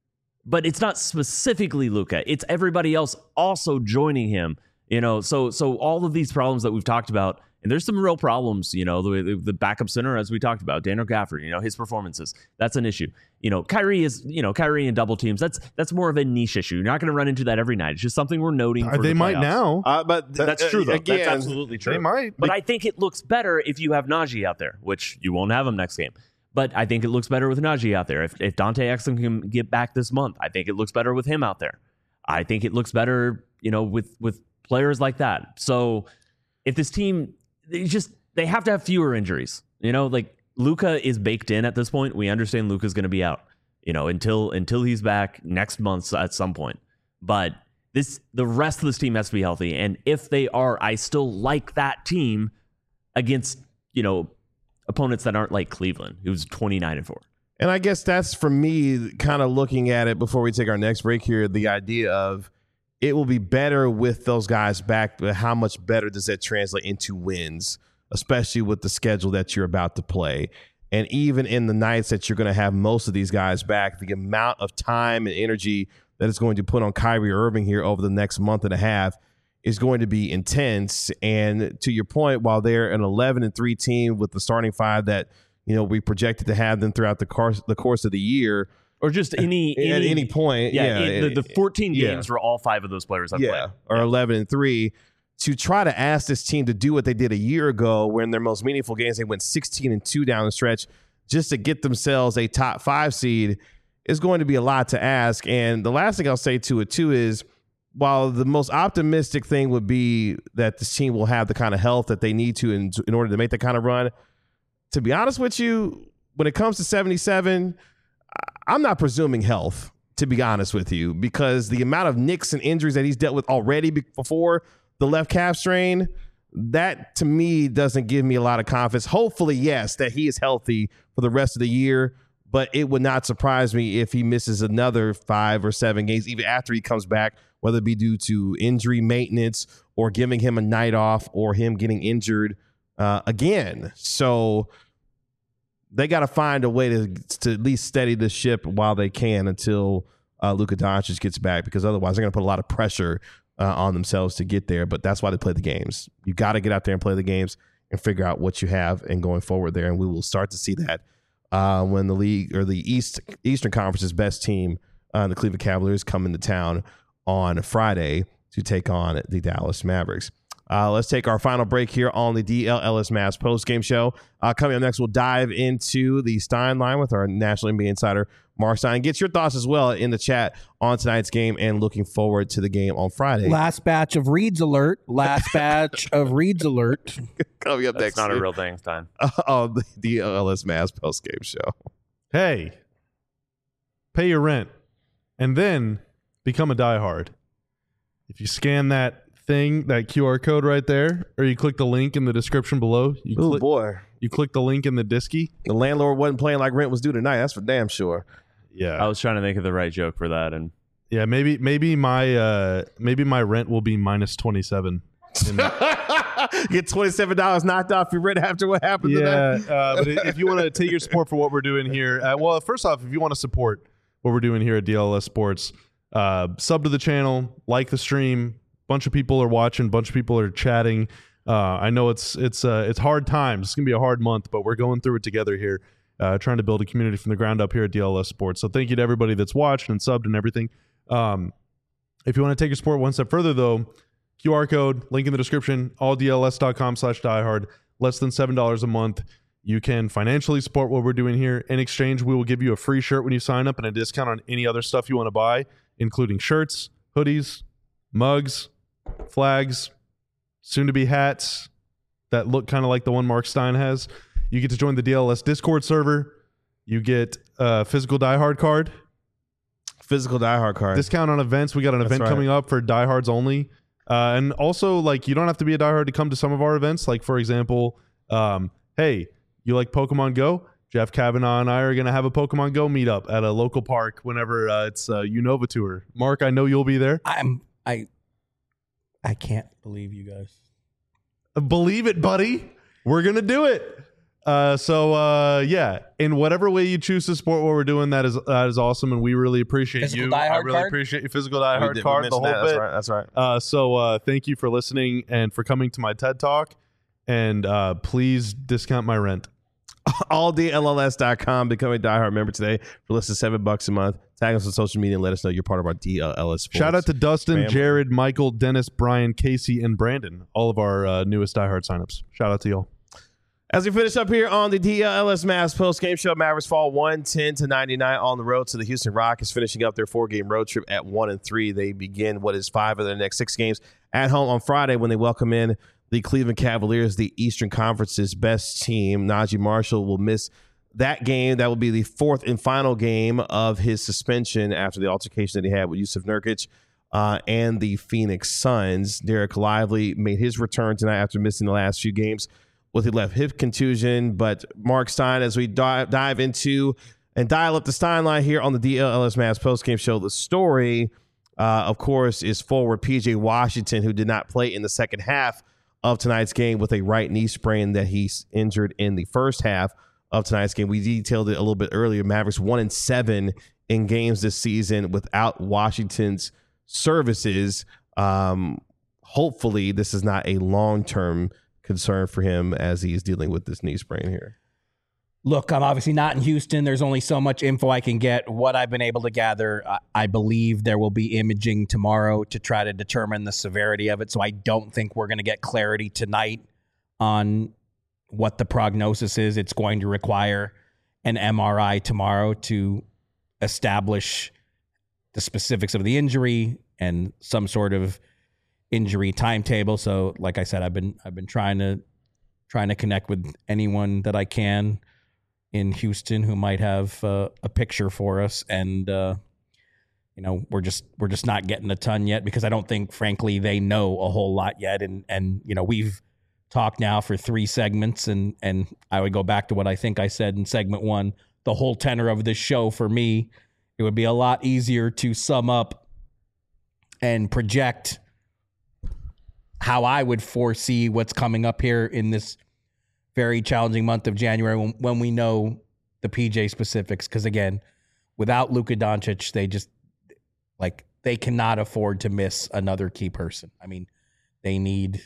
but it's not specifically Luka. It's everybody else also joining him, you know? So all of these problems that we've talked about, and there's some real problems, you know, the backup center, as we talked about, Daniel Gafford, you know, his performances, that's an issue. You know, Kyrie and double teams, that's more of a niche issue. You're not going to run into that every night. It's just something we're noting for They the might playoffs. now. But That's true, though. Again, that's absolutely true. They might. But I think it looks better if you have Najee out there, which you won't have him next game. But I think it looks better with Najee out there. If Dante Exum can get back this month, I think it looks better with him out there. I think it looks better, you know, with players like that. So if this team, they have to have fewer injuries. You know, like Luka is baked in at this point. We understand Luka's going to be out, you know, until he's back next month at some point. But the rest of this team has to be healthy. And if they are, I still like that team against, you know, opponents that aren't like Cleveland, who's 29-4. And I guess that's, for me, kind of looking at it before we take our next break here, the idea of it will be better with those guys back, but how much better does that translate into wins, especially with the schedule that you're about to play? And even in the nights that you're going to have most of these guys back, the amount of time and energy that it's going to put on Kyrie Irving here over the next month and a half is going to be intense. And to your point, while they're an 11-3 team with the starting five that, you know, we projected to have them throughout the course of the year, or just any at any point, the 14 games where all 5 of those players have played, or 11-3. To try to ask this team to do what they did a year ago, when their most meaningful games they went 16-2 down the stretch, just to get themselves a top 5 seed, is going to be a lot to ask. And the last thing I'll say to it too is, while the most optimistic thing would be that this team will have the kind of health that they need to in order to make that kind of run, to be honest with you, when it comes to 77, I'm not presuming health, to be honest with you, because the amount of nicks and injuries that he's dealt with already before the left calf strain, that to me doesn't give me a lot of confidence. Hopefully, yes, that he is healthy for the rest of the year, but it would not surprise me if he misses another 5 or 7 games, even after he comes back, whether it be due to injury maintenance or giving him a night off or him getting injured again. So they got to find a way to at least steady the ship while they can until Luka Doncic gets back, because otherwise they're going to put a lot of pressure on themselves to get there. But that's why they play the games. You got to get out there and play the games and figure out what you have and going forward there. And we will start to see that when the league, or the Eastern Conference's best team, the Cleveland Cavaliers, come into town on Friday to take on the Dallas Mavericks. Let's take our final break here on the DLLS Mavs postgame show. Coming up next, we'll dive into the Stein line with our National NBA insider, Mark Stein. Get your thoughts as well in the chat on tonight's game and looking forward to the game on Friday. Last batch of Reads alert. Last batch of Reads alert. Coming up next. That's not a real thing, Stein. On the DLLS Mavs postgame show. Hey, pay your rent and then become a diehard. If you scan that QR code right there, or you click the link in the description below. You click the link in the Disky. The landlord wasn't playing like rent was due tonight. That's for damn sure. Yeah, I was trying to think of the right joke for that, and yeah, maybe my rent will be minus 27. Get $27 knocked off your rent after what happened tonight. But if you want to take your support for what we're doing here, well, first off, if you want to support what we're doing here at DLS Sports, sub to the channel, like the stream. Bunch of people are watching. Bunch of people are chatting. I know it's hard times. It's gonna be a hard month, but we're going through it together here. trying to build a community from the ground up here at DLS Sports. So thank you to everybody that's watched and subbed and everything. If you want to take your sport one step further, though, QR code, link in the description, alldls.com/diehard, less than $7 a month. You can financially support what we're doing here. In exchange, we will give you a free shirt when you sign up and a discount on any other stuff you want to buy, including shirts, hoodies, mugs, flags, soon-to-be hats that look kind of like the one Mark Stein has. You get to join the DLS Discord server. You get a physical diehard card. Physical diehard card. Discount on events. We got an event coming up for diehards only. And also, like, you don't have to be a diehard to come to some of our events. Like, for example, hey, you like Pokemon Go? Jeff Kavanaugh and I are going to have a Pokemon Go meetup at a local park whenever it's Unova Tour. Mark, I know you'll be there. I can't believe you guys. Believe it, buddy. We're going to do it. Yeah, in whatever way you choose to support what we're doing, that is awesome, and we really appreciate Physical you. diehard I really card? appreciate your physical diehard card, the whole that. bit. That's right. So thank you for listening and for coming to my TED Talk, and please discount my rent. AllDLLS.com. Become a diehard member today for less than $7 a month. Tag us on social media and let us know you're part of our DLS Sports. Shout out to Dustin, family. Jared, Michael, Dennis, Brian, Casey, and Brandon, all of our newest diehard signups. Shout out to y'all. As we finish up here on the DLS Mavs post-game show, Mavericks fall 110-99 on the road to the Houston Rockets, finishing up their 4-game road trip at 1-3. They begin what is 5 of their next 6 games at home on Friday when they welcome in the Cleveland Cavaliers, the Eastern Conference's best team. Najee Marshall will miss that game. That will be the 4th and final game of his suspension after the altercation that he had with Yusuf Nurkic and the Phoenix Suns. Derek Lively made his return tonight after missing the last few games with a left hip contusion. But Mark Stein, as we dive into and dial up the Stein line here on the DLS Mavs postgame show, the story, of course, is forward PJ Washington, who did not play in the second half of tonight's game with a right knee sprain that he's injured in the first half of tonight's game. We detailed it a little bit earlier. Mavericks 1-7 in games this season without Washington's services. Hopefully, this is not a long-term concern for him as he's dealing with this knee sprain here. Look, I'm obviously not in Houston. There's only so much info I can get. What I've been able to gather, I believe there will be imaging tomorrow to try to determine the severity of it. So I don't think we're going to get clarity tonight on what the prognosis is. It's going to require an MRI tomorrow to establish the specifics of the injury and some sort of injury timetable. So, like I said, I've been trying to connect with anyone that I can in Houston who might have a picture for us, and we're just not getting a ton yet because I don't think, frankly, they know a whole lot yet. And we've talked now for 3 segments, and I would go back to what I think I said in segment 1. The whole tenor of this show for me, it would be a lot easier to sum up and project how I would foresee what's coming up here in this very challenging month of January when we know the PJ specifics. Because again, without Luka Doncic, they cannot afford to miss another key person. I mean, they need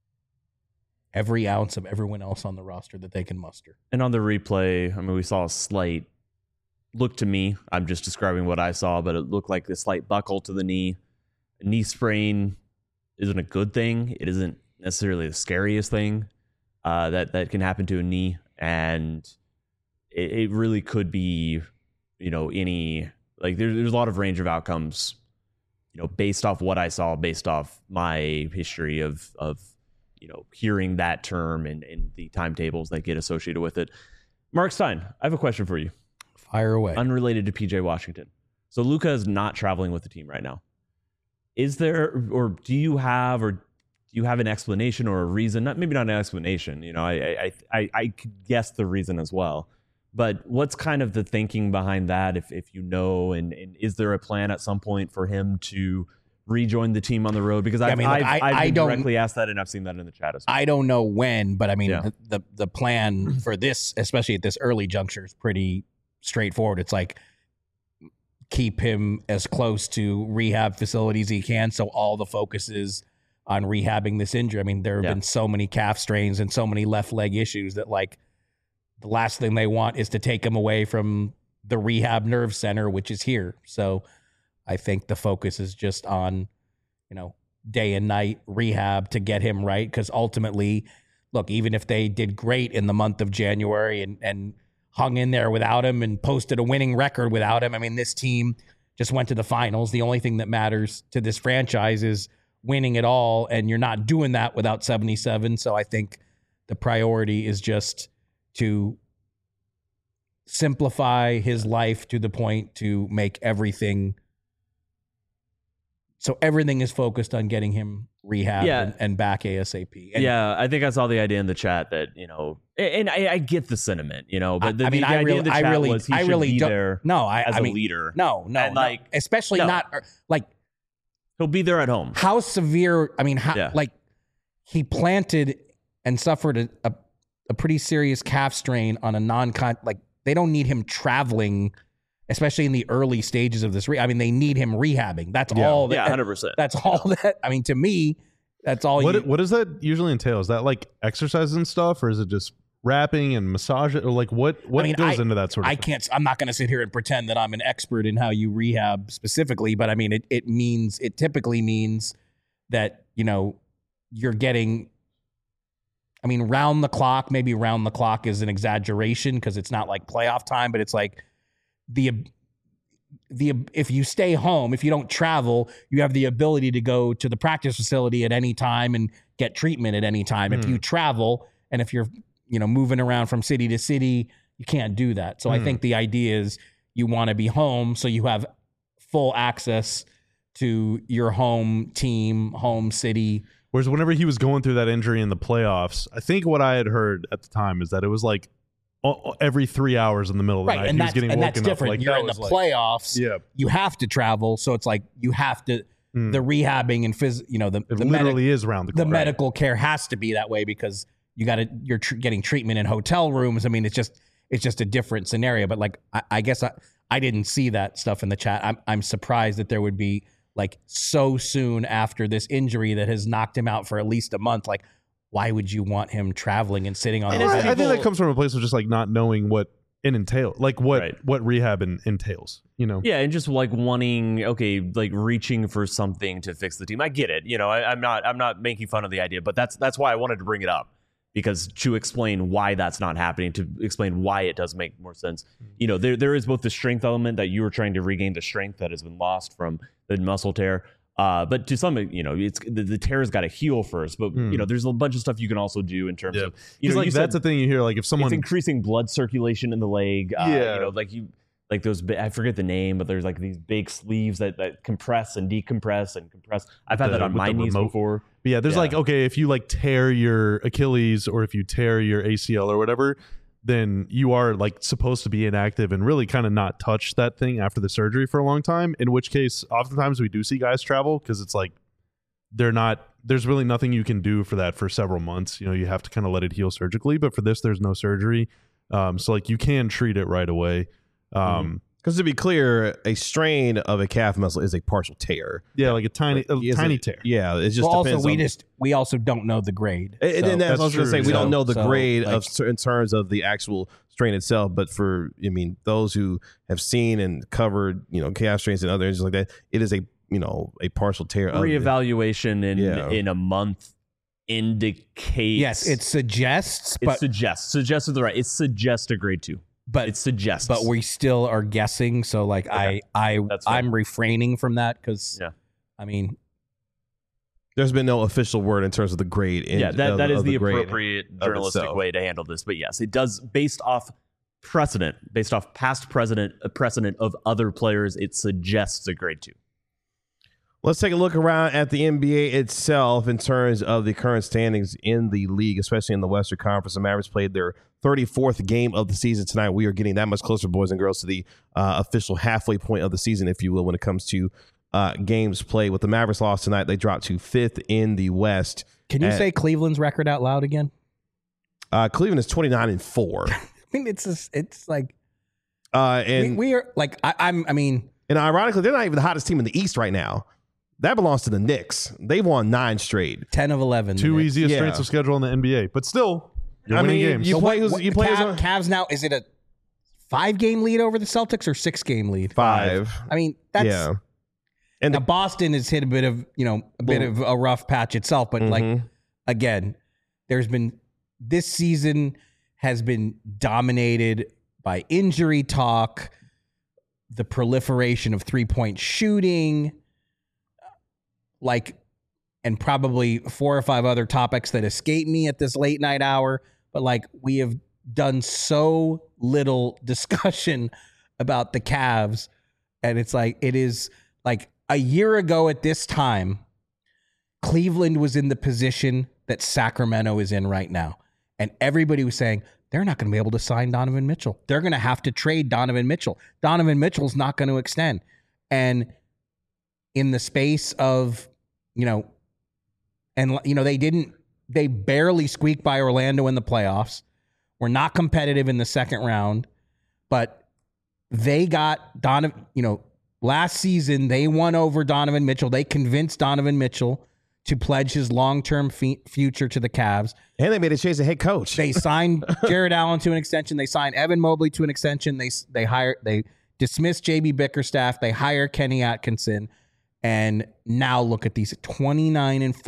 every ounce of everyone else on the roster that they can muster. And on the replay, I mean, we saw a slight look to me. I'm just describing what I saw, but it looked like a slight buckle to the knee. A knee sprain isn't a good thing. It isn't necessarily the scariest thing that can happen to a knee, and it really could be, any, like, there's a lot of range of outcomes, based off what I saw, based off my history of hearing that term and the timetables that get associated with it. Mark Stein, I have a question for you. Fire away. Unrelated to PJ Washington. So Luka is not traveling with the team right now. Is there, or do you have an explanation or a reason? Maybe not an explanation. I could guess the reason as well. But what's kind of the thinking behind that, if you know, and is there a plan at some point for him to rejoin the team on the road? Because I've been directly asked that, and I've seen that in the chat as well. I don't know when, but I mean, the plan for this, especially at this early juncture, is pretty straightforward. It's like, keep him as close to rehab facilities as he can, so all the focus is on rehabbing this injury. I mean, there have been so many calf strains and so many left leg issues that, like, the last thing they want is to take him away from the rehab nerve center, which is here. So I think the focus is just on, day and night rehab to get him right. Because ultimately, look, even if they did great in the month of January and hung in there without him and posted a winning record without him, I mean, this team just went to the finals. The only thing that matters to this franchise is winning it all, and you're not doing that without 77. So I think the priority is just to simplify his life to the point to make everything so everything is focused on getting him rehab and back ASAP. And I think I saw the idea in the chat that, and I get the sentiment, but the idea in the chat was he should be there as a leader. No, and especially not like he'll be there at home. How severe? I mean, like he planted and suffered a pretty serious calf strain on a like they don't need him traveling, especially in the early stages of this. I mean, they need him rehabbing. That's all. 100%. That's all that. I mean, to me, that's all. What does that usually entail? Is that like exercise and stuff, or is it just wrapping and massage it, or like what goes into that sort of thing? I'm not going to sit here and pretend that I'm an expert in how you rehab specifically, but I mean, it typically means that, you're getting, I mean, round the clock, maybe round the clock is an exaggeration because it's not like playoff time, but it's like if you stay home, if you don't travel, you have the ability to go to the practice facility at any time and get treatment at any time. If you travel and if you're, moving around from city to city, you can't do that. So I think the idea is you want to be home so you have full access to your home team, home city. Whereas whenever he was going through that injury in the playoffs, I think what I had heard at the time is that it was like every 3 hours in the middle of the night, he was getting woken up. That's different. Like, you're in the playoffs. You have to travel, so it's like you have to. The rehabbing and it literally is around the clock. The medical care has to be that way because you're getting treatment in hotel rooms. I mean, it's just a different scenario. But like, I guess I didn't see that stuff in the chat. I'm surprised that there would be like so soon after this injury that has knocked him out for at least a month. Like, why would you want him traveling and sitting on? I think that comes from a place of just like not knowing what it entails, like what rehab entails, Yeah, and just like wanting, like reaching for something to fix the team. I get it. I'm not making fun of the idea, but that's why I wanted to bring it up, because to explain why that's not happening, to explain why it does make more sense. There is both the strength element that you were trying to regain the strength that has been lost from the muscle tear. But to some, it's the tear's got to heal first. But there's a bunch of stuff you can also do in terms of, like that's the thing you hear. Like if someone, it's increasing blood circulation in the leg. Like those, I forget the name, but there's like these big sleeves that compress and decompress and compress. I've had that on my knees before. But yeah, there's like, if you like tear your Achilles or if you tear your ACL or whatever, then you are like supposed to be inactive and really kind of not touch that thing after the surgery for a long time. In which case, oftentimes we do see guys travel because it's like there's really nothing you can do for that for several months. You have to kind of let it heal surgically. But for this, there's no surgery. So like you can treat it right away. Because to be clear, a strain of a calf muscle is a partial tear. Yeah, like a tiny tear. Yeah, it just depends. We also don't know the grade. And that's what I was going to say. We don't know the grade like, in terms of the actual strain itself. But those who have seen and covered, calf strains and other injuries like that, it is a partial tear. Reevaluation in a month indicates. Yes, it suggests. Suggests is the right. It suggests a grade 2. But it suggests. But we still are guessing. So like I'm refraining from that because there's been no official word in terms of the grade. That is the appropriate journalistic way to handle this. But yes, it does, based off past precedent of other players, it suggests a grade 2. Let's take a look around at the NBA itself in terms of the current standings in the league, especially in the Western Conference. The Mavericks played their 34th game of the season tonight. We are getting that much closer, boys and girls, to the official halfway point of the season, if you will, when it comes to games played. With the Mavericks loss tonight, they dropped to 5th in the West. Can you say Cleveland's record out loud again? Cleveland is 29-4. I mean, it's like, and we are like, and ironically, they're not even the hottest team in the East right now. That belongs to the Knicks. They've won 9 straight. 10 of 11. Two easiest strengths of schedule in the NBA. But still, You're winning games. You play Cavs now. Is it a 5-game lead over the Celtics or 6-game lead? 5. I mean, that's Yeah. And now Boston has hit a bit of a rough patch itself, but like again, this season has been dominated by injury talk, the proliferation of 3-point shooting, and probably 4 or 5 other topics that escape me at this late night hour. But like, we have done so little discussion about the Cavs, and it is like a year ago at this time, Cleveland was in the position that Sacramento is in right now. And everybody was saying, they're not going to be able to sign Donovan Mitchell. They're going to have to trade Donovan Mitchell. Donovan Mitchell's not going to extend. And in the space of, they barely squeaked by Orlando in the playoffs. We're not competitive in the second round, but they got Donovan, last season, they won over Donovan Mitchell. They convinced Donovan Mitchell to pledge his long-term future to the Cavs. And they made a change the head coach. They signed Jared Allen to an extension. They signed Evan Mobley to an extension. They dismissed JB Bickerstaff. They hire Kenny Atkinson. And now look at these 29-4.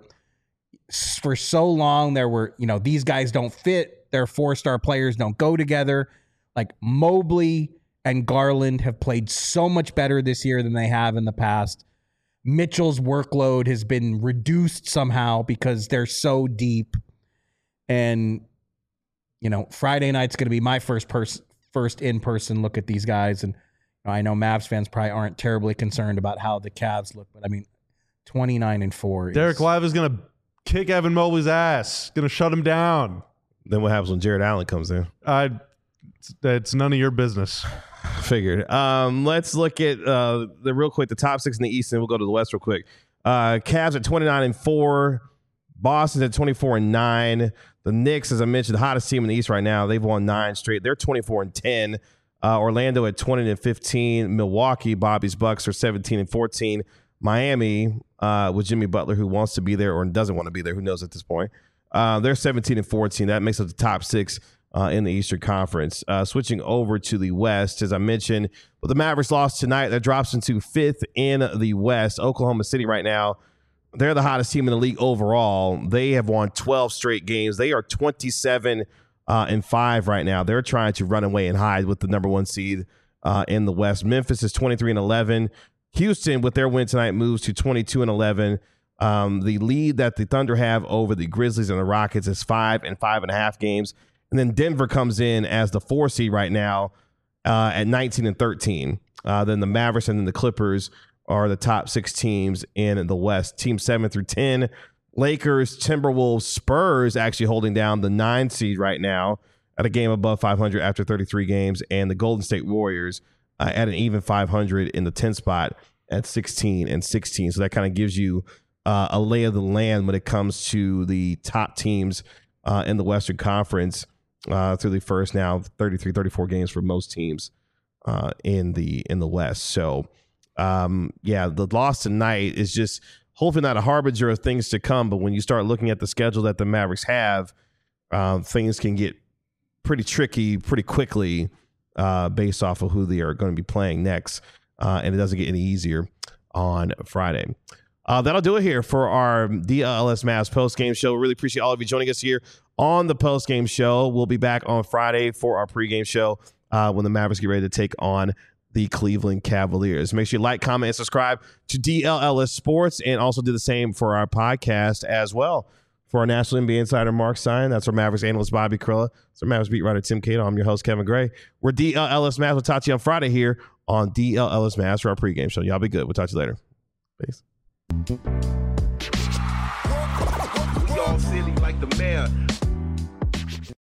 For so long, there were, these guys don't fit. Their 4-star players don't go together. Like Mobley and Garland have played so much better this year than they have in the past. Mitchell's workload has been reduced somehow because they're so deep. And, Friday night's going to be my first in-person look at these guys. And I know Mavs fans probably aren't terribly concerned about how the Cavs look, but 29-4. Derek Lively is going to kick Evan Mobley's ass. Going to shut him down. Then what happens when Jared Allen comes in? It's none of your business. Figured. Let's look at the top 6 in the East, and we'll go to the West real quick. Cavs at 29-4. Boston's at 24-9. The Knicks, as I mentioned, the hottest team in the East right now. They've won 9 straight. They're 24-10. Orlando at 20-15. Milwaukee, Bobby's Bucks, are 17-14. Miami, with Jimmy Butler, who wants to be there or doesn't want to be there, who knows at this point. They're 17-14. That makes up the top 6 in the Eastern Conference. Switching over to the West, as I mentioned, with the Mavericks lost tonight, that drops into 5th in the West. Oklahoma City right now, they're the hottest team in the league overall. They have won 12 straight games. They are 27-5 right now. They're trying to run away and hide with the number 1 seed in the West. Memphis is 23-11. Houston, with their win tonight, moves to 22-11. The lead that the Thunder have over the Grizzlies and the Rockets is 5 and 5.5 games. And then Denver comes in as the 4 seed right now at 19-13. Then the Mavericks and then the Clippers are the top 6 teams in the West. Teams 7 through 10. Lakers, Timberwolves, Spurs actually holding down the 9 seed right now at a game above 500 after 33 games. And the Golden State Warriors at an even 500 in the 10 spot at 16-16. So that kind of gives you a lay of the land when it comes to the top teams in the Western Conference through the first now 33, 34 games for most teams in the West. So, the loss tonight is just hopefully not a harbinger of things to come. But when you start looking at the schedule that the Mavericks have, things can get pretty tricky pretty quickly based off of who they are going to be playing next. And it doesn't get any easier on Friday. That'll do it here for our DLS Mavs post-game show. We really appreciate all of you joining us here on the post-game show. We'll be back on Friday for our pregame show when the Mavericks get ready to take on the Cleveland Cavaliers. Make sure you like, comment, and subscribe to DLLS Sports, and also do the same for our podcast as well. For our National NBA insider, Mark Stein, that's our Mavericks analyst, Bobby Carilla. That's our Mavericks beat writer, Tim Cato. I'm your host, Kevin Gray. We're DLLS Mavs. We'll talk to you on Friday here on DLLS Mavs for our pregame show. Y'all be good. We'll talk to you later. Peace. We all silly like the mayor.